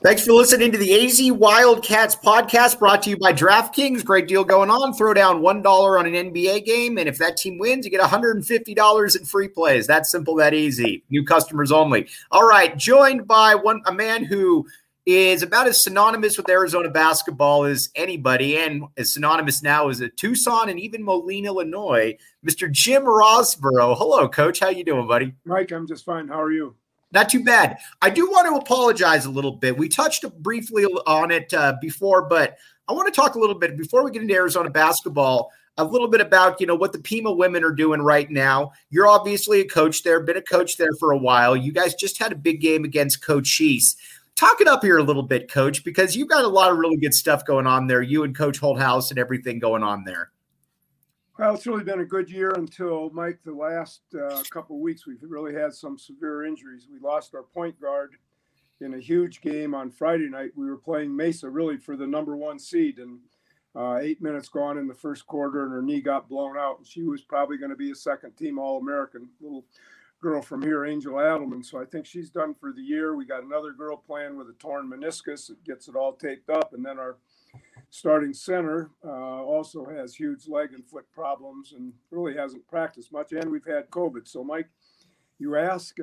Thanks for listening to the AZ Wildcats podcast brought to you by DraftKings. Great deal going on. Throw down $1 on an NBA game, and if that team wins, you get $150 in free plays. That's simple, that easy. New customers only. All right, joined by a man who is about as synonymous with Arizona basketball as anybody, and as synonymous now as Tucson and even Moline, Illinois, Mr. Jim Rosborough. Hello, Coach. How you doing, buddy? Mike, I'm just fine. How are you? Not too bad. I do want to apologize a little bit. We touched briefly on it before, but I want to talk a little bit before we get into Arizona basketball, a little bit about, what the Pima women are doing right now. You're obviously a coach there, been a coach there for a while. You guys just had a big game against Cochise. Talk it up here a little bit, Coach, because you've got a lot of really good stuff going on there. You and Coach Holthouse and everything going on there. Well, it's really been a good year until, Mike, the last couple of weeks. We've really had some severe injuries. We lost our point guard in a huge game on Friday night. We were playing Mesa really for the number one seed, and 8 minutes gone in the first quarter, and her knee got blown out. And she was probably going to be a second-team All-American, little girl from here, Angel Adelman. So I think she's done for the year. We got another girl playing with a torn meniscus. It gets it all taped up, and then our starting center also has huge leg and foot problems and really hasn't practiced much. And we've had COVID. So, Mike, you ask,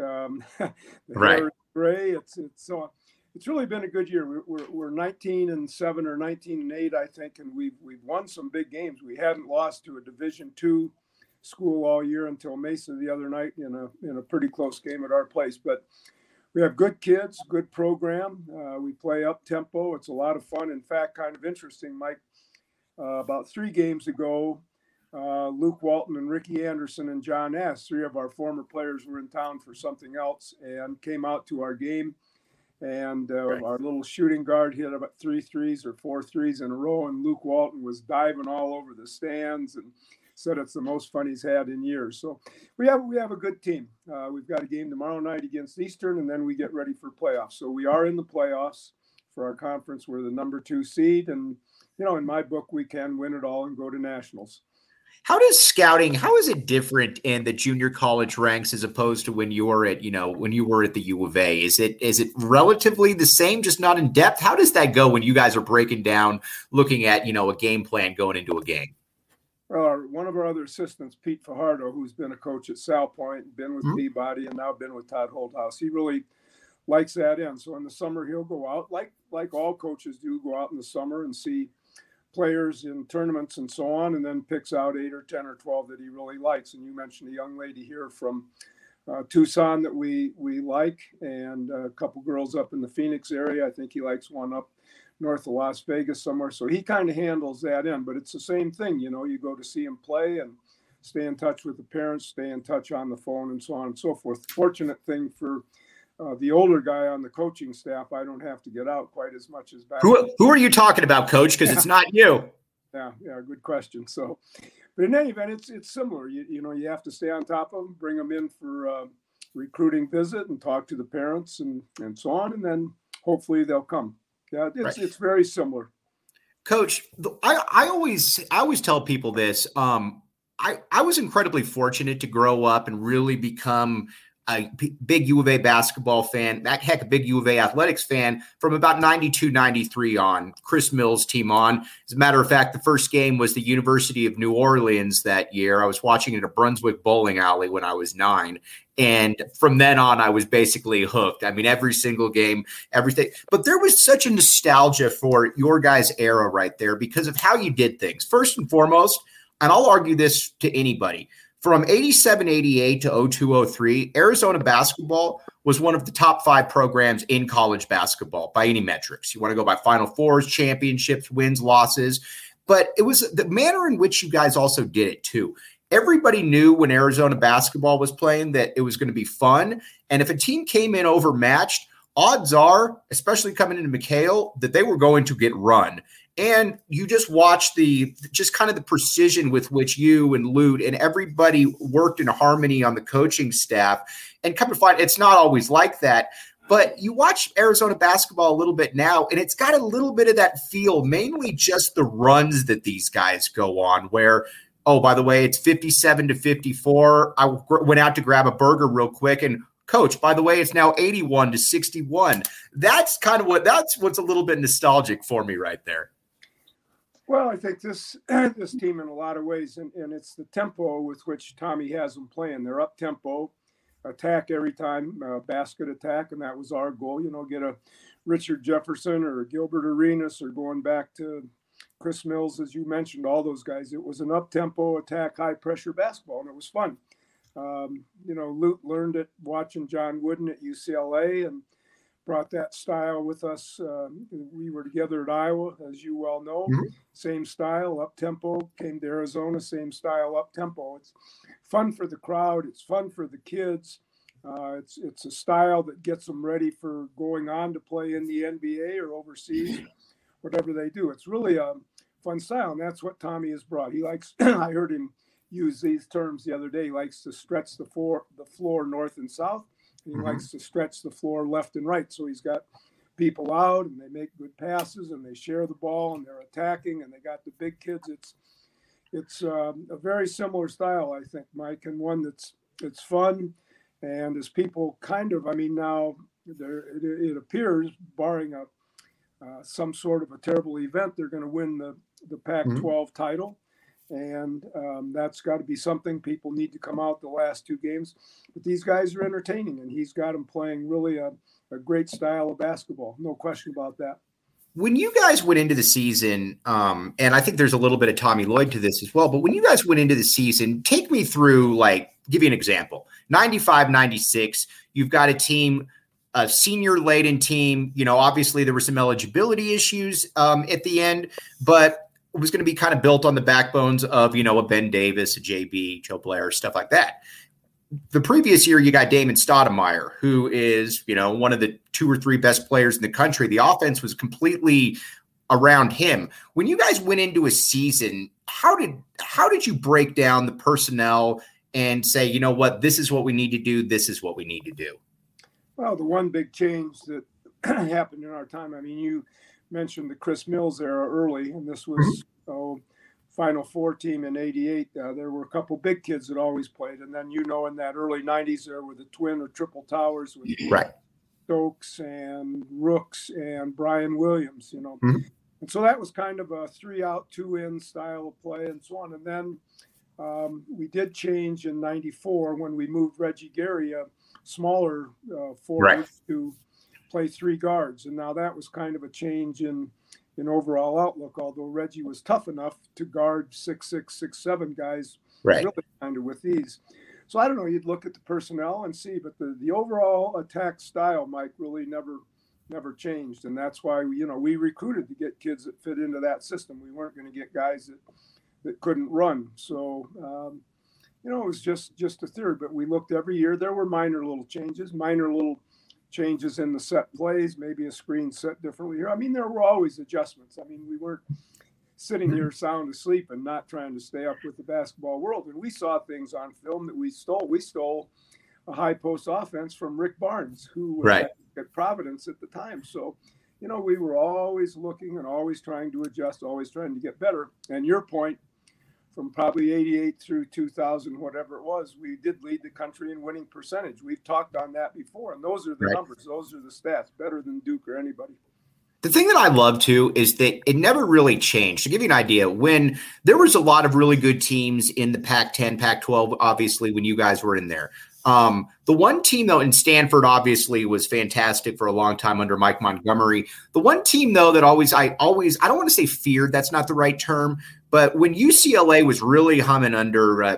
right? Gray. It's really been a good year. We're 19-7 or 19-8, I think, and we've won some big games. We hadn't lost to a Division II school all year until Mesa the other night in a pretty close game at our place. But we have good kids, good program. We play up tempo. It's a lot of fun. In fact, kind of interesting, Mike. About 3 games ago, Luke Walton and Ricky Anderson and John S., 3 of our former players, were in town for something else and came out to our game. And our little shooting guard hit about 3 threes or 4 threes in a row, and Luke Walton was diving all over the stands and said it's the most fun he's had in years. So we have a good team. We've got a game tomorrow night against Eastern, and then we get ready for playoffs. So we are in the playoffs for our conference. We're the number 2 seed, and in my book, we can win it all and go to nationals. How is it different in the junior college ranks as opposed to when you were at, when you were at the U of A? Is it relatively the same, just not in depth? How does that go when you guys are breaking down, looking at, a game plan going into a game? Well, one of our other assistants, Pete Fajardo, who's been a coach at Sal Point, been with Peabody, and now been with Todd Holthouse, he really likes that in. So in the summer, he'll go out, like all coaches do, go out in the summer and see players in tournaments and so on, and then picks out 8 or 10 or 12 that he really likes. And you mentioned a young lady here from Tucson that we like, and a couple girls up in the Phoenix area. I think he likes one up north of Las Vegas somewhere. So he kind of handles that in, but it's the same thing. You go to see him play and stay in touch with the parents, stay in touch on the phone, and so on and so forth. Fortunate thing for the older guy on the coaching staff, I don't have to get out quite as much as back. Who are you talking about, Coach? Because it's not you. Yeah, good question. So, but in any event, it's similar. You have to stay on top of them, bring them in for a recruiting visit and talk to the parents and so on, and then hopefully they'll come. Yeah, it's very similar. Coach, I always tell people this. I was incredibly fortunate to grow up and really become a big U of A basketball fan, a big U of A athletics fan from about 92, 93 on, Chris Mills' team on. As a matter of fact, the first game was the University of New Orleans that year. I was watching it at a Brunswick bowling alley when I was 9. And from then on, I was basically hooked. I mean, every single game, everything. But there was such a nostalgia for your guys' era right there because of how you did things. First and foremost, and I'll argue this to anybody, from 87-88 to 02-03, Arizona basketball was one of the top 5 programs in college basketball by any metrics. You want to go by Final Fours, championships, wins, losses. But it was the manner in which you guys also did it too. Everybody knew when Arizona basketball was playing that it was going to be fun. And if a team came in overmatched, odds are, especially coming into McHale, that they were going to get run. And you just watch the precision with which you and Lute and everybody worked in harmony on the coaching staff. And come to find, it's not always like that. But you watch Arizona basketball a little bit now, and it's got a little bit of that feel, mainly just the runs that these guys go on where, oh, by the way, it's 57-54. I went out to grab a burger real quick, and Coach, by the way, it's now 81-61. That's what's a little bit nostalgic for me right there. Well, I think this team in a lot of ways, and it's the tempo with which Tommy has them playing. They're up tempo, attack every time, basket attack, and that was our goal. Get a Richard Jefferson or Gilbert Arenas, or going back to Chris Mills, as you mentioned, all those guys. It was an up tempo attack, high pressure basketball, and it was fun. Lute learned it watching John Wooden at UCLA, and brought that style with us. We were together at Iowa, as you well know. Mm-hmm. Same style, up-tempo. Came to Arizona, same style, up-tempo. It's fun for the crowd. It's fun for the kids. It's a style that gets them ready for going on to play in the NBA or overseas, whatever they do. It's really a fun style, and that's what Tommy has brought. He likes, I heard him use these terms the other day, he likes to stretch the floor north and south. He likes to stretch the floor left and right. So he's got people out, and they make good passes, and they share the ball, and they're attacking, and they got the big kids. It's a very similar style, I think, Mike, and one it's fun. And as people now it appears, barring some sort of a terrible event, they're going to win the Pac-12 title. And that's got to be something. People need to come out the last two games. But these guys are entertaining, and he's got them playing really a great style of basketball. No question about that. When you guys went into the season, and I think there's a little bit of Tommy Lloyd to this as well, but when you guys went into the season, take me through, give you an example. 95-96, you've got a team, a senior-laden team. Obviously there were some eligibility issues at the end, but it was going to be kind of built on the backbones of, a Ben Davis, a JB, Joe Blair, stuff like that. The previous year, you got Damon Stoudemire, who is, one of the 2 or 3 best players in the country. The offense was completely around him. When you guys went into a season, how did you break down the personnel and say, you know what, this is what we need to do, this is what we need to do? Well, the one big change that happened in our time, you mentioned the Chris Mills era early, and this was Final Four team in '88. There were a couple big kids that always played, and then in that early '90s there were the twin or triple towers with Stokes and Rooks and Brian Williams. And so that was kind of a 3-out, 2-in style of play, and so on. And then we did change in '94 when we moved Reggie Gary, a smaller forward, to play 3 guards, and now that was kind of a change in overall outlook. Although Reggie was tough enough to guard 6'6", 6'7" guys, really kind of with ease. So I don't know. You'd look at the personnel and see, but the overall attack style, Mike, really never changed, and that's why we recruited to get kids that fit into that system. We weren't going to get guys that couldn't run. So it was just a theory. But we looked every year. There were minor little changes in the set plays, maybe a screen set differently here. There were always adjustments. We weren't sitting here sound asleep and not trying to stay up with the basketball world. And we saw things on film that we stole. We stole a high post offense from Rick Barnes, who was at Providence at the time. So, we were always looking and always trying to adjust, always trying to get better. And your point, from probably 88 through 2000, whatever it was, we did lead the country in winning percentage. We've talked on that before, and those are the numbers. Those are the stats, better than Duke or anybody. The thing that I love, too, is that it never really changed. To give you an idea, when there was a lot of really good teams in the Pac-10, Pac-12, obviously, when you guys were in there. The one team, though, in Stanford, obviously, was fantastic for a long time under Mike Montgomery. The one team, though, that I don't want to say feared, that's not the right term, but when UCLA was really humming under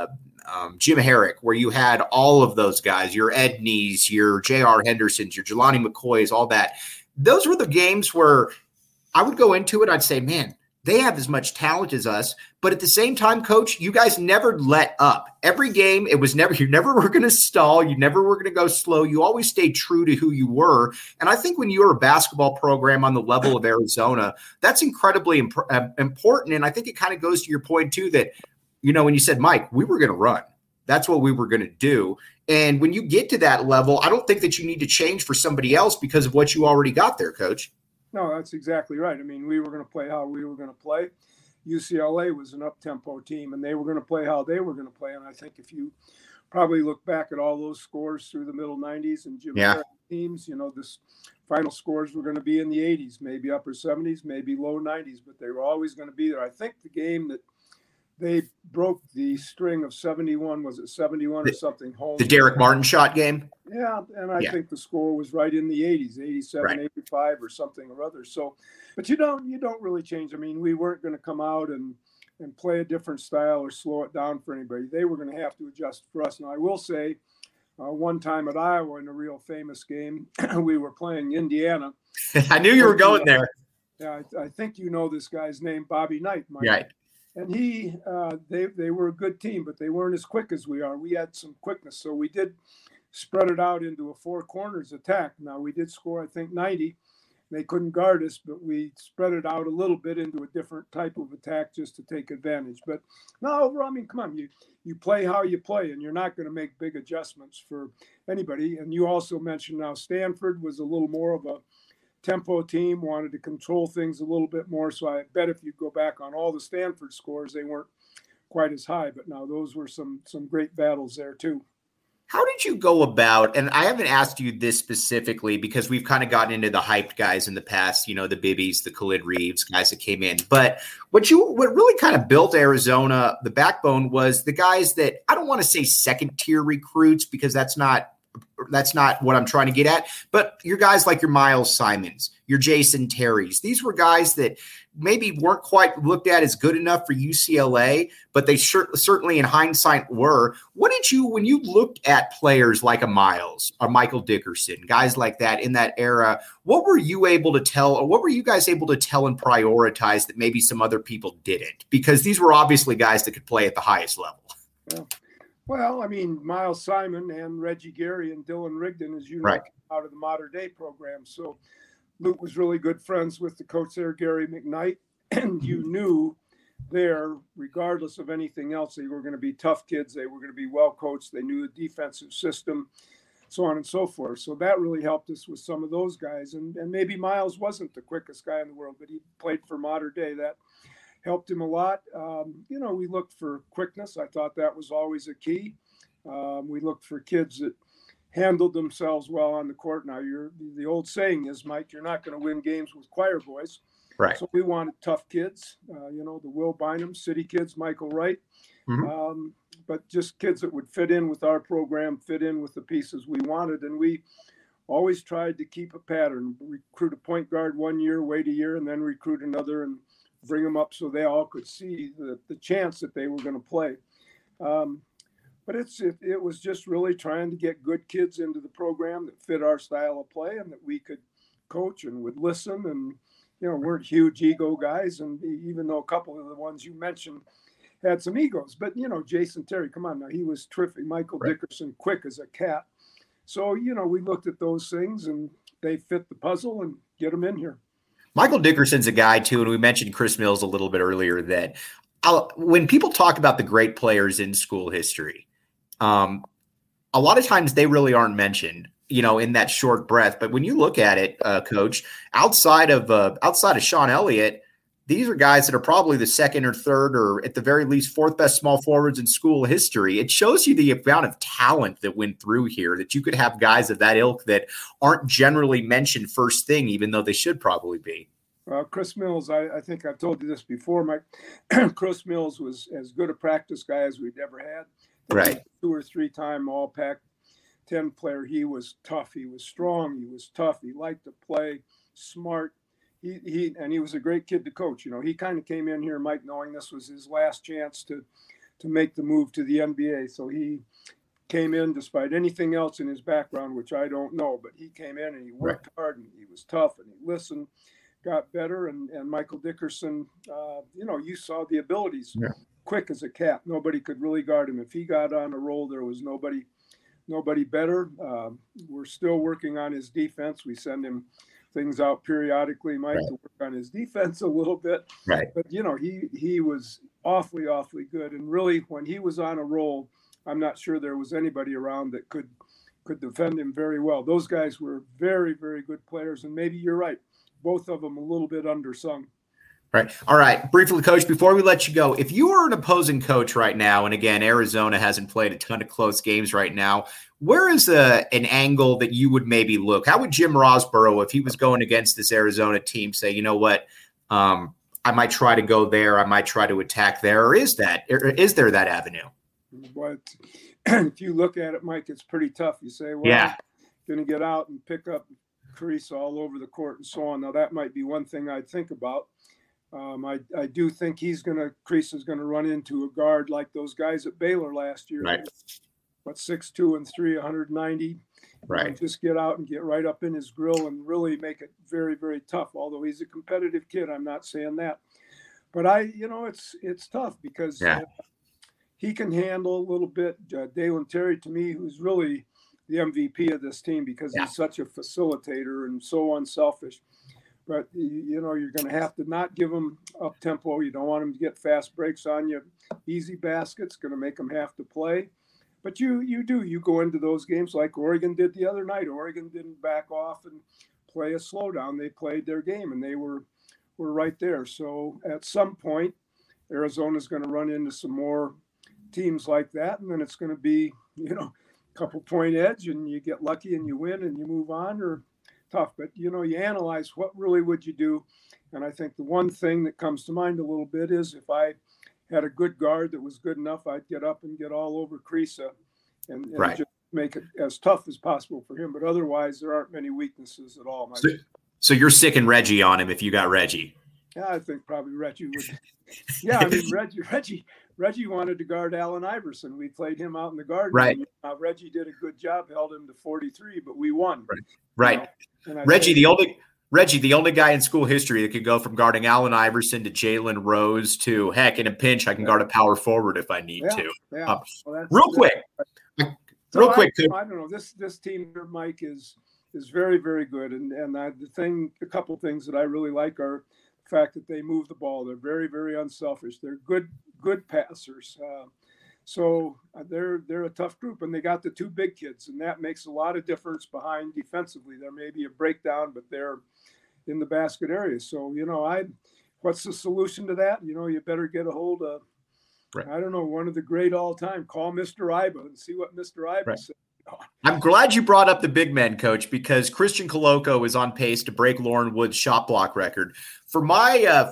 Jim Herrick, where you had all of those guys, your Edneys, your J.R. Hendersons, your Jelani McCoys, all that, those were the games where I would go into it, I'd say, man, they have as much talent as us. But at the same time, Coach, you guys never let up. Every game, you never were going to stall. You never were going to go slow. You always stayed true to who you were. And I think when you're a basketball program on the level of Arizona, that's incredibly important. And I think it kind of goes to your point, too, that, when you said, Mike, we were going to run. That's what we were going to do. And when you get to that level, I don't think that you need to change for somebody else because of what you already got there, Coach. No, that's exactly right. We were going to play how we were going to play. UCLA was an up-tempo team, and they were going to play how they were going to play. And I think if you probably look back at all those scores through the middle 90s and Jim Harris teams, this final scores were going to be in the 80s, maybe upper 70s, maybe low 90s, but they were always going to be there. I think the game that they broke the string of 71, was it 71 or something home? The Derek Martin shot game? Yeah, and I think the score was right in the 80s, 87, 85 or something or other. So, but you don't really change. I mean, we weren't going to come out and play a different style or slow it down for anybody. They were going to have to adjust for us. Now, I will say, one time at Iowa in a real famous game, we were playing Indiana. I knew you were going there. Yeah, I think you know this guy's name, Bobby Knight. Right. And they were a good team, but they weren't as quick as we are. We had some quickness, so we did spread it out into a four corners attack. Now, we did score, I think, 90. They couldn't guard us, but we spread it out a little bit into a different type of attack just to take advantage. But no, overall, I mean, come on, you play how you play, and you're not going to make big adjustments for anybody. And you also mentioned now Stanford was a little more of a tempo team, wanted to control things a little bit more. So I bet if you go back on all the Stanford scores, they weren't quite as high. But now those were some great battles there too. How did you go about, and I haven't asked you this specifically because we've kind of gotten into the hyped guys in the past, the Bibbies, the Khalid Reeves, guys that came in. But what really kind of built Arizona, the backbone, was the guys that, I don't want to say second tier recruits because that's not what I'm trying to get at, but your guys like your Miles Simons, your Jason Terrys. These were guys that maybe weren't quite looked at as good enough for UCLA, but they certainly in hindsight were. What did you, when you looked at players like a Miles or Michael Dickerson, guys like that in that era, what were you able to tell, or what were you guys able to tell and prioritize that maybe some other people didn't? Because these were obviously guys that could play at the highest level. Yeah. Well, I mean, Miles Simon and Reggie Gary and Dylan Rigdon, as you know, right, out of the modern day program. So Luke was really good friends with the coach there, Gary McKnight, and you knew there, regardless of anything else, they were going to be tough kids. They were going to be well coached. They knew the defensive system, so on and so forth. So that really helped us with some of those guys. And maybe Miles wasn't the quickest guy in the world, but he played for modern day. That helped him a lot. We looked for quickness. I thought that was always a key. We looked for kids that handled themselves well on the court. Now, the old saying is, Mike, you're not going to win games with choir boys. Right. So we wanted tough kids, the Will Bynum, City kids, Michael Wright, but just kids that would fit in with our program, fit in with the pieces we wanted. And we always tried to keep a pattern, recruit a point guard 1 year, wait a year, and then recruit another and bring them up so they all could see the chance that they were going to play. But it was just really trying to get good kids into the program that fit our style of play and that we could coach and would listen and, weren't huge ego guys. And even though a couple of the ones you mentioned had some egos, but, Jason Terry, come on now, he was terrific. Michael Dickerson, quick as a cat. So, we looked at those things and they fit the puzzle and get them in here. Michael Dickerson's a guy, too, and we mentioned Chris Mills a little bit earlier, that when people talk about the great players in school history, a lot of times they really aren't mentioned, in that short breath. But when you look at it, Coach, outside of Sean Elliott, these are guys that are probably the second or third or at the very least fourth best small forwards in school history. It shows you the amount of talent that went through here, that you could have guys of that ilk that aren't generally mentioned first thing, even though they should probably be. Chris Mills, I think I've told you this before, Mike. Chris Mills was as good a practice guy as we'd ever had. Right. 2 or 3 time All Pac-10 player. He was tough. He was strong. He was tough. He liked to play, smart. He was a great kid to coach. He kind of came in here, Mike, knowing this was his last chance to make the move to the NBA. So he came in despite anything else in his background, which I don't know, but he came in and he worked hard and he was tough and he listened, got better. And Michael Dickerson, you saw the abilities, quick as a cat. Nobody could really guard him. If he got on a roll, there was nobody better. We're still working on his defense. We send him things out periodically, Mike, to work on his defense a little bit. Right. But, he was awfully good. And really, when he was on a roll, I'm not sure there was anybody around that could defend him very well. Those guys were very, very good players. And maybe you're right. Both of them a little bit undersung. Right. All right. Briefly, Coach, before we let you go, if you were an opposing coach right now, and again, Arizona hasn't played a ton of close games right now, where is an angle that you would maybe look? How would Jim Rosborough, if he was going against this Arizona team, say, you know what, I might try to go there, I might try to attack there, or is there that avenue? But if you look at it, Mike, it's pretty tough. You say, well, I'm going to get out and pick up Crease all over the court and so on. Now, that might be one thing I'd think about. I do think Crease is going to run into a guard like those guys at Baylor last year. Right. 6'2" and 3, 190. Right. Just get out and get right up in his grill and really make it very, very tough. Although he's a competitive kid, I'm not saying that. But it's tough because he can handle a little bit. Dalen Terry, to me, who's really the MVP of this team because he's such a facilitator and so unselfish. But, you're going to have to not give him up tempo. You don't want him to get fast breaks on you. Easy baskets, going to make him have to play. But you go into those games like Oregon did the other night. Oregon didn't back off and play a slowdown. They played their game, and they were right there. So at some point, Arizona's going to run into some more teams like that, and then it's going to be, a couple point edge, and you get lucky and you win and you move on, or tough. But, you analyze what really would you do. And I think the one thing that comes to mind a little bit is if I had a good guard that was good enough, I'd get up and get all over Kriisa and just make it as tough as possible for him. But otherwise, there aren't many weaknesses at all. So you're sicking Reggie on him if you got Reggie. Yeah, I think probably Reggie would. Yeah, I mean, Reggie wanted to guard Allen Iverson. We played him out in the garden. Right. Reggie did a good job, held him to 43, but we won. Right. Reggie, the only guy in school history that could go from guarding Allen Iverson to Jalen Rose to, heck, in a pinch, I can guard a power forward if I need to. Yeah. Real quick. I don't know. This team here, Mike, is very, very good. And a couple things that I really like are the fact that they move the ball. They're very, very unselfish. They're good passers. So they're a tough group, and they got the two big kids, and that makes a lot of difference behind defensively. There may be a breakdown, but they're in the basket area. So, what's the solution to that? You better get a hold of, I don't know, one of the great all-time. Call Mr. Iba and see what Mr. Iba said. I'm glad you brought up the big men, Coach, because Christian Koloko is on pace to break Lauren Wood's shot block record. From my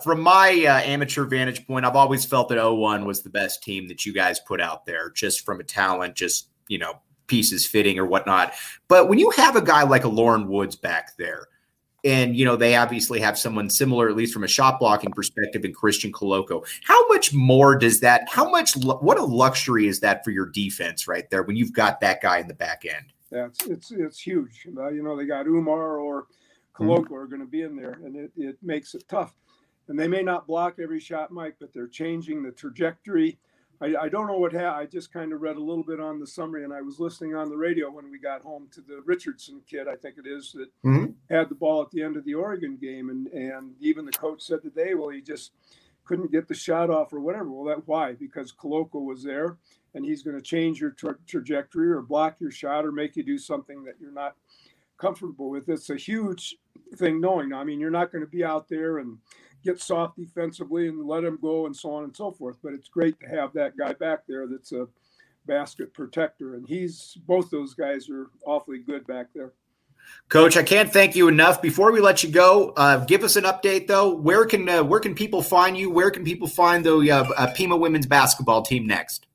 amateur vantage point, I've always felt that 0-1 was the best team that you guys put out there, just from a talent, just, pieces fitting or whatnot. But when you have a guy like a Lauren Woods back there, and, they obviously have someone similar, at least from a shot blocking perspective, in Christian Koloko. How much more does that, what a luxury is that for your defense right there when you've got that guy in the back end? Yeah, it's huge. They got Umar or Koloko are going to be in there, and it makes it tough. And they may not block every shot, Mike, but they're changing the trajectory. I don't know what happened. I just kind of read a little bit on the summary, and I was listening on the radio when we got home to the Richardson kid, I think it is, that had the ball at the end of the Oregon game. And even the coach said today, well, he just couldn't get the shot off or whatever. Well, why? Because Koloko was there, and he's going to change your trajectory or block your shot or make you do something that you're not comfortable with. It's a huge thing knowing. I mean, you're not going to be out there and get soft defensively and let him go and so on and so forth. But it's great to have that guy back there that's a basket protector. And both those guys are awfully good back there. Coach, I can't thank you enough. Before we let you go, give us an update, though. Where can people find you? Where can people find the Pima women's basketball team next?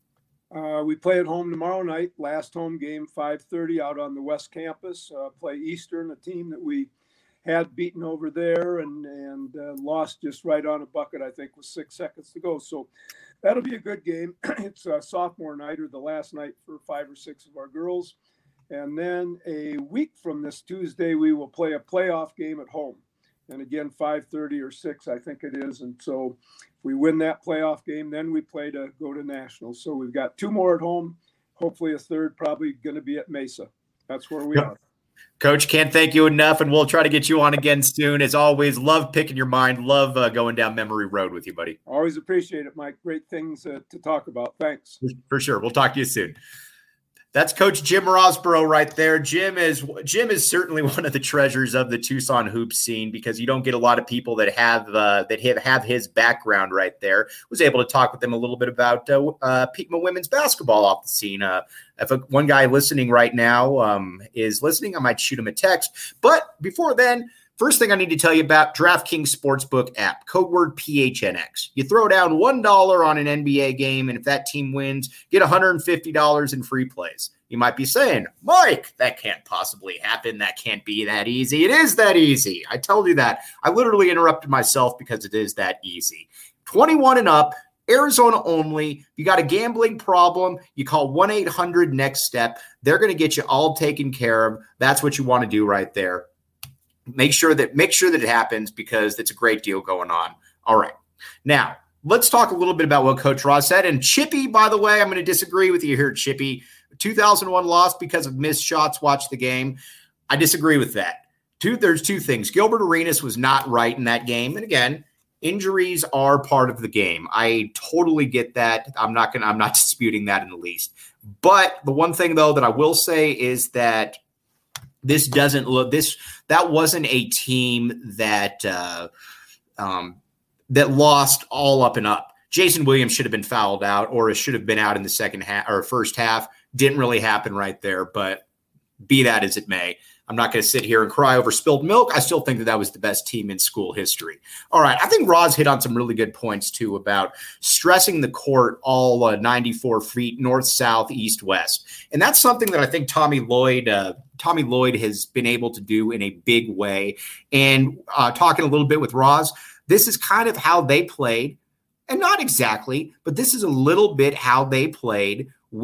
We play at home tomorrow night. Last home game, 5:30 out on the West Campus. Play Eastern, a team that we had beaten over there and lost just right on a bucket, I think, with 6 seconds to go. So that'll be a good game. It's a sophomore night or the last night for 5 or 6 of our girls. And then a week from this Tuesday, we will play a playoff game at home. And again, 5:30 or 6, I think it is. And so if we win that playoff game, then we play to go to nationals. So we've got 2 more at home, hopefully a third, probably going to be at Mesa. That's where we are. Coach, can't thank you enough, and we'll try to get you on again soon. As always, love picking your mind. Love going down memory road with you, buddy. Always appreciate it, Mike. Great things to talk about. Thanks. For sure. We'll talk to you soon. That's Coach Jim Rosborough right there. Jim is certainly one of the treasures of the Tucson hoops scene, because you don't get a lot of people that have his background right there. Was able to talk with them a little bit about Pima women's basketball off the scene. If one guy listening right now is listening, I might shoot him a text. But before then, first thing I need to tell you about DraftKings Sportsbook app, code word PHNX. You throw down $1 on an NBA game, and if that team wins, get $150 in free plays. You might be saying, Mike, that can't possibly happen. That can't be that easy. It is that easy. I told you that. I literally interrupted myself because it is that easy. 21 and up, Arizona only. You got a gambling problem, you call 1-800-NEXT-STEP. They're going to get you all taken care of. That's what you want to do right there. Make sure that it happens, because it's a great deal going on. All right. Now, let's talk a little bit about what Coach Ross said. And Chippy, by the way, I'm going to disagree with you here, Chippy. 2001 loss because of missed shots. Watch the game. I disagree with that. There's two things. Gilbert Arenas was not right in that game. And again, injuries are part of the game. I totally get that. I'm not disputing that in the least. But the one thing, though, that I will say is that that wasn't a team that lost all up and up. Jason Williams should have been fouled out, or should have been out in the second half or first half. Didn't really happen right there, but be that as it may, I'm not going to sit here and cry over spilled milk. I still think that was the best team in school history. All right. I think Roz hit on some really good points too about stressing the court all 94 feet, north, south, east, west. And that's something that I think Tommy Lloyd has been able to do in a big way. And talking a little bit with Roz, this is kind of how they played, and not exactly, but this is a little bit how they played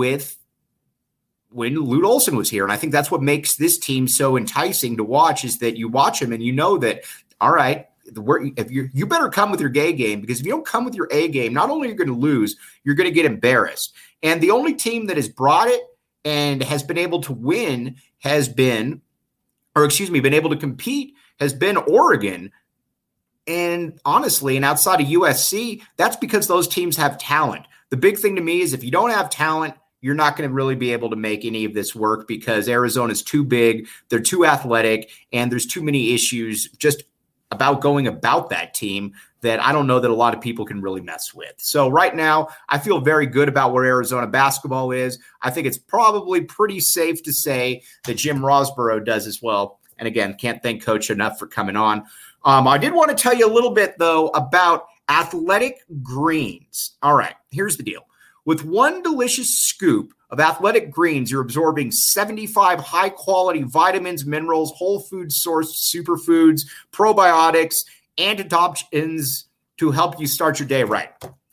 when Lute Olson was here. And I think that's what makes this team so enticing to watch, is that you watch them and you know that, all right, if you better come with your A game, because if you don't come with your A game, not only are you going to lose, you're going to get embarrassed. And the only team that has brought it and has been able to win been able to compete has been Oregon. And honestly, and outside of USC, that's because those teams have talent. The big thing to me is if you don't have talent, you're not going to really be able to make any of this work, because Arizona's too big, they're too athletic, and there's too many issues just about going about that team that I don't know that a lot of people can really mess with. So right now, I feel very good about where Arizona basketball is. I think it's probably pretty safe to say that Jim Rosborough does as well. And again, can't thank Coach enough for coming on. I did want to tell you a little bit, though, about Athletic Greens. All right, here's the deal. With one delicious scoop of Athletic Greens, you're absorbing 75 high-quality vitamins, minerals, whole food sourced superfoods, probiotics, antioxidants to help you start your day right.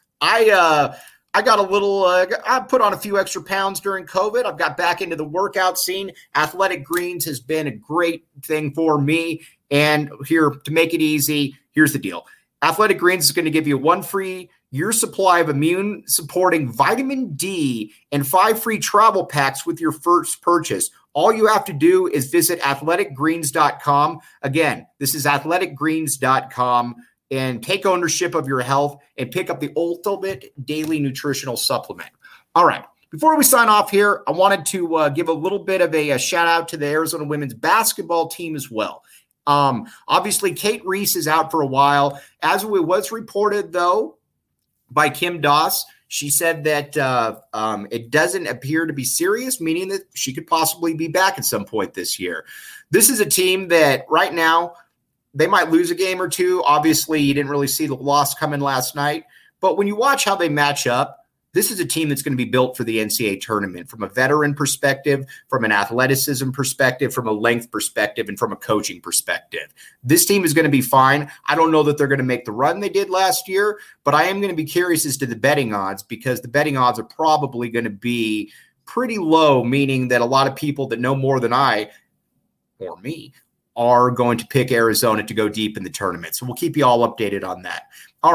I got a little, I put on a few extra pounds during COVID. I've got back into the workout scene. Athletic Greens has been a great thing for me. And here, to make it easy, here's the deal. Athletic Greens is going to give you one free year supply of immune-supporting vitamin D and 5 free travel packs with your first purchase. All you have to do is visit athleticgreens.com. Again, this is athleticgreens.com, and take ownership of your health and pick up the ultimate daily nutritional supplement. All right. Before we sign off here, I wanted to give a little bit of a shout out to the Arizona women's basketball team as well. Obviously, Kate Reese is out for a while. As it was reported, though, by Kim Doss, she said that it doesn't appear to be serious, meaning that she could possibly be back at some point this year. This is a team that right now, they might lose a game or two. Obviously, you didn't really see the loss coming last night. But when you watch how they match up, this is a team that's going to be built for the NCAA tournament from a veteran perspective, from an athleticism perspective, from a length perspective, and from a coaching perspective. This team is going to be fine. I don't know that they're going to make the run they did last year, but I am going to be curious as to the betting odds, because the betting odds are probably going to be pretty low, meaning that a lot of people that know more than I or me are going to pick Arizona to go deep in the tournament. So we'll keep you all updated on that. All right.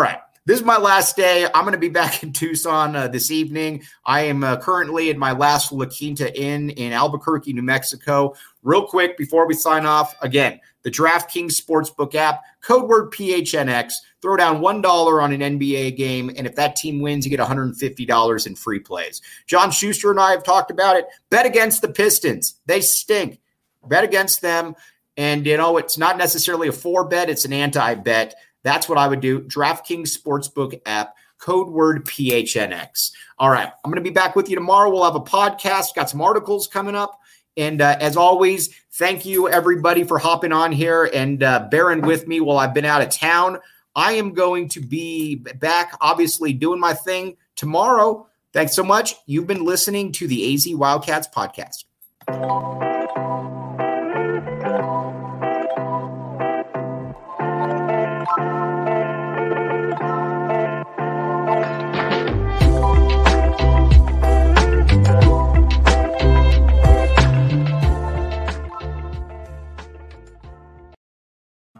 This is my last day. I'm going to be back in Tucson this evening. I am currently in my last La Quinta Inn in Albuquerque, New Mexico. Real quick, before we sign off, again, the DraftKings Sportsbook app, code word PHNX. Throw down $1 on an NBA game, and if that team wins, you get $150 in free plays. John Schuster and I have talked about it. Bet against the Pistons. They stink. Bet against them. And, it's not necessarily a for bet. It's an anti-bet. That's what I would do. DraftKings Sportsbook app, code word PHNX. All right. I'm going to be back with you tomorrow. We'll have a podcast. Got some articles coming up. And as always, thank you, everybody, for hopping on here and bearing with me while I've been out of town. I am going to be back, obviously, doing my thing tomorrow. Thanks so much. You've been listening to the AZ Wildcats podcast.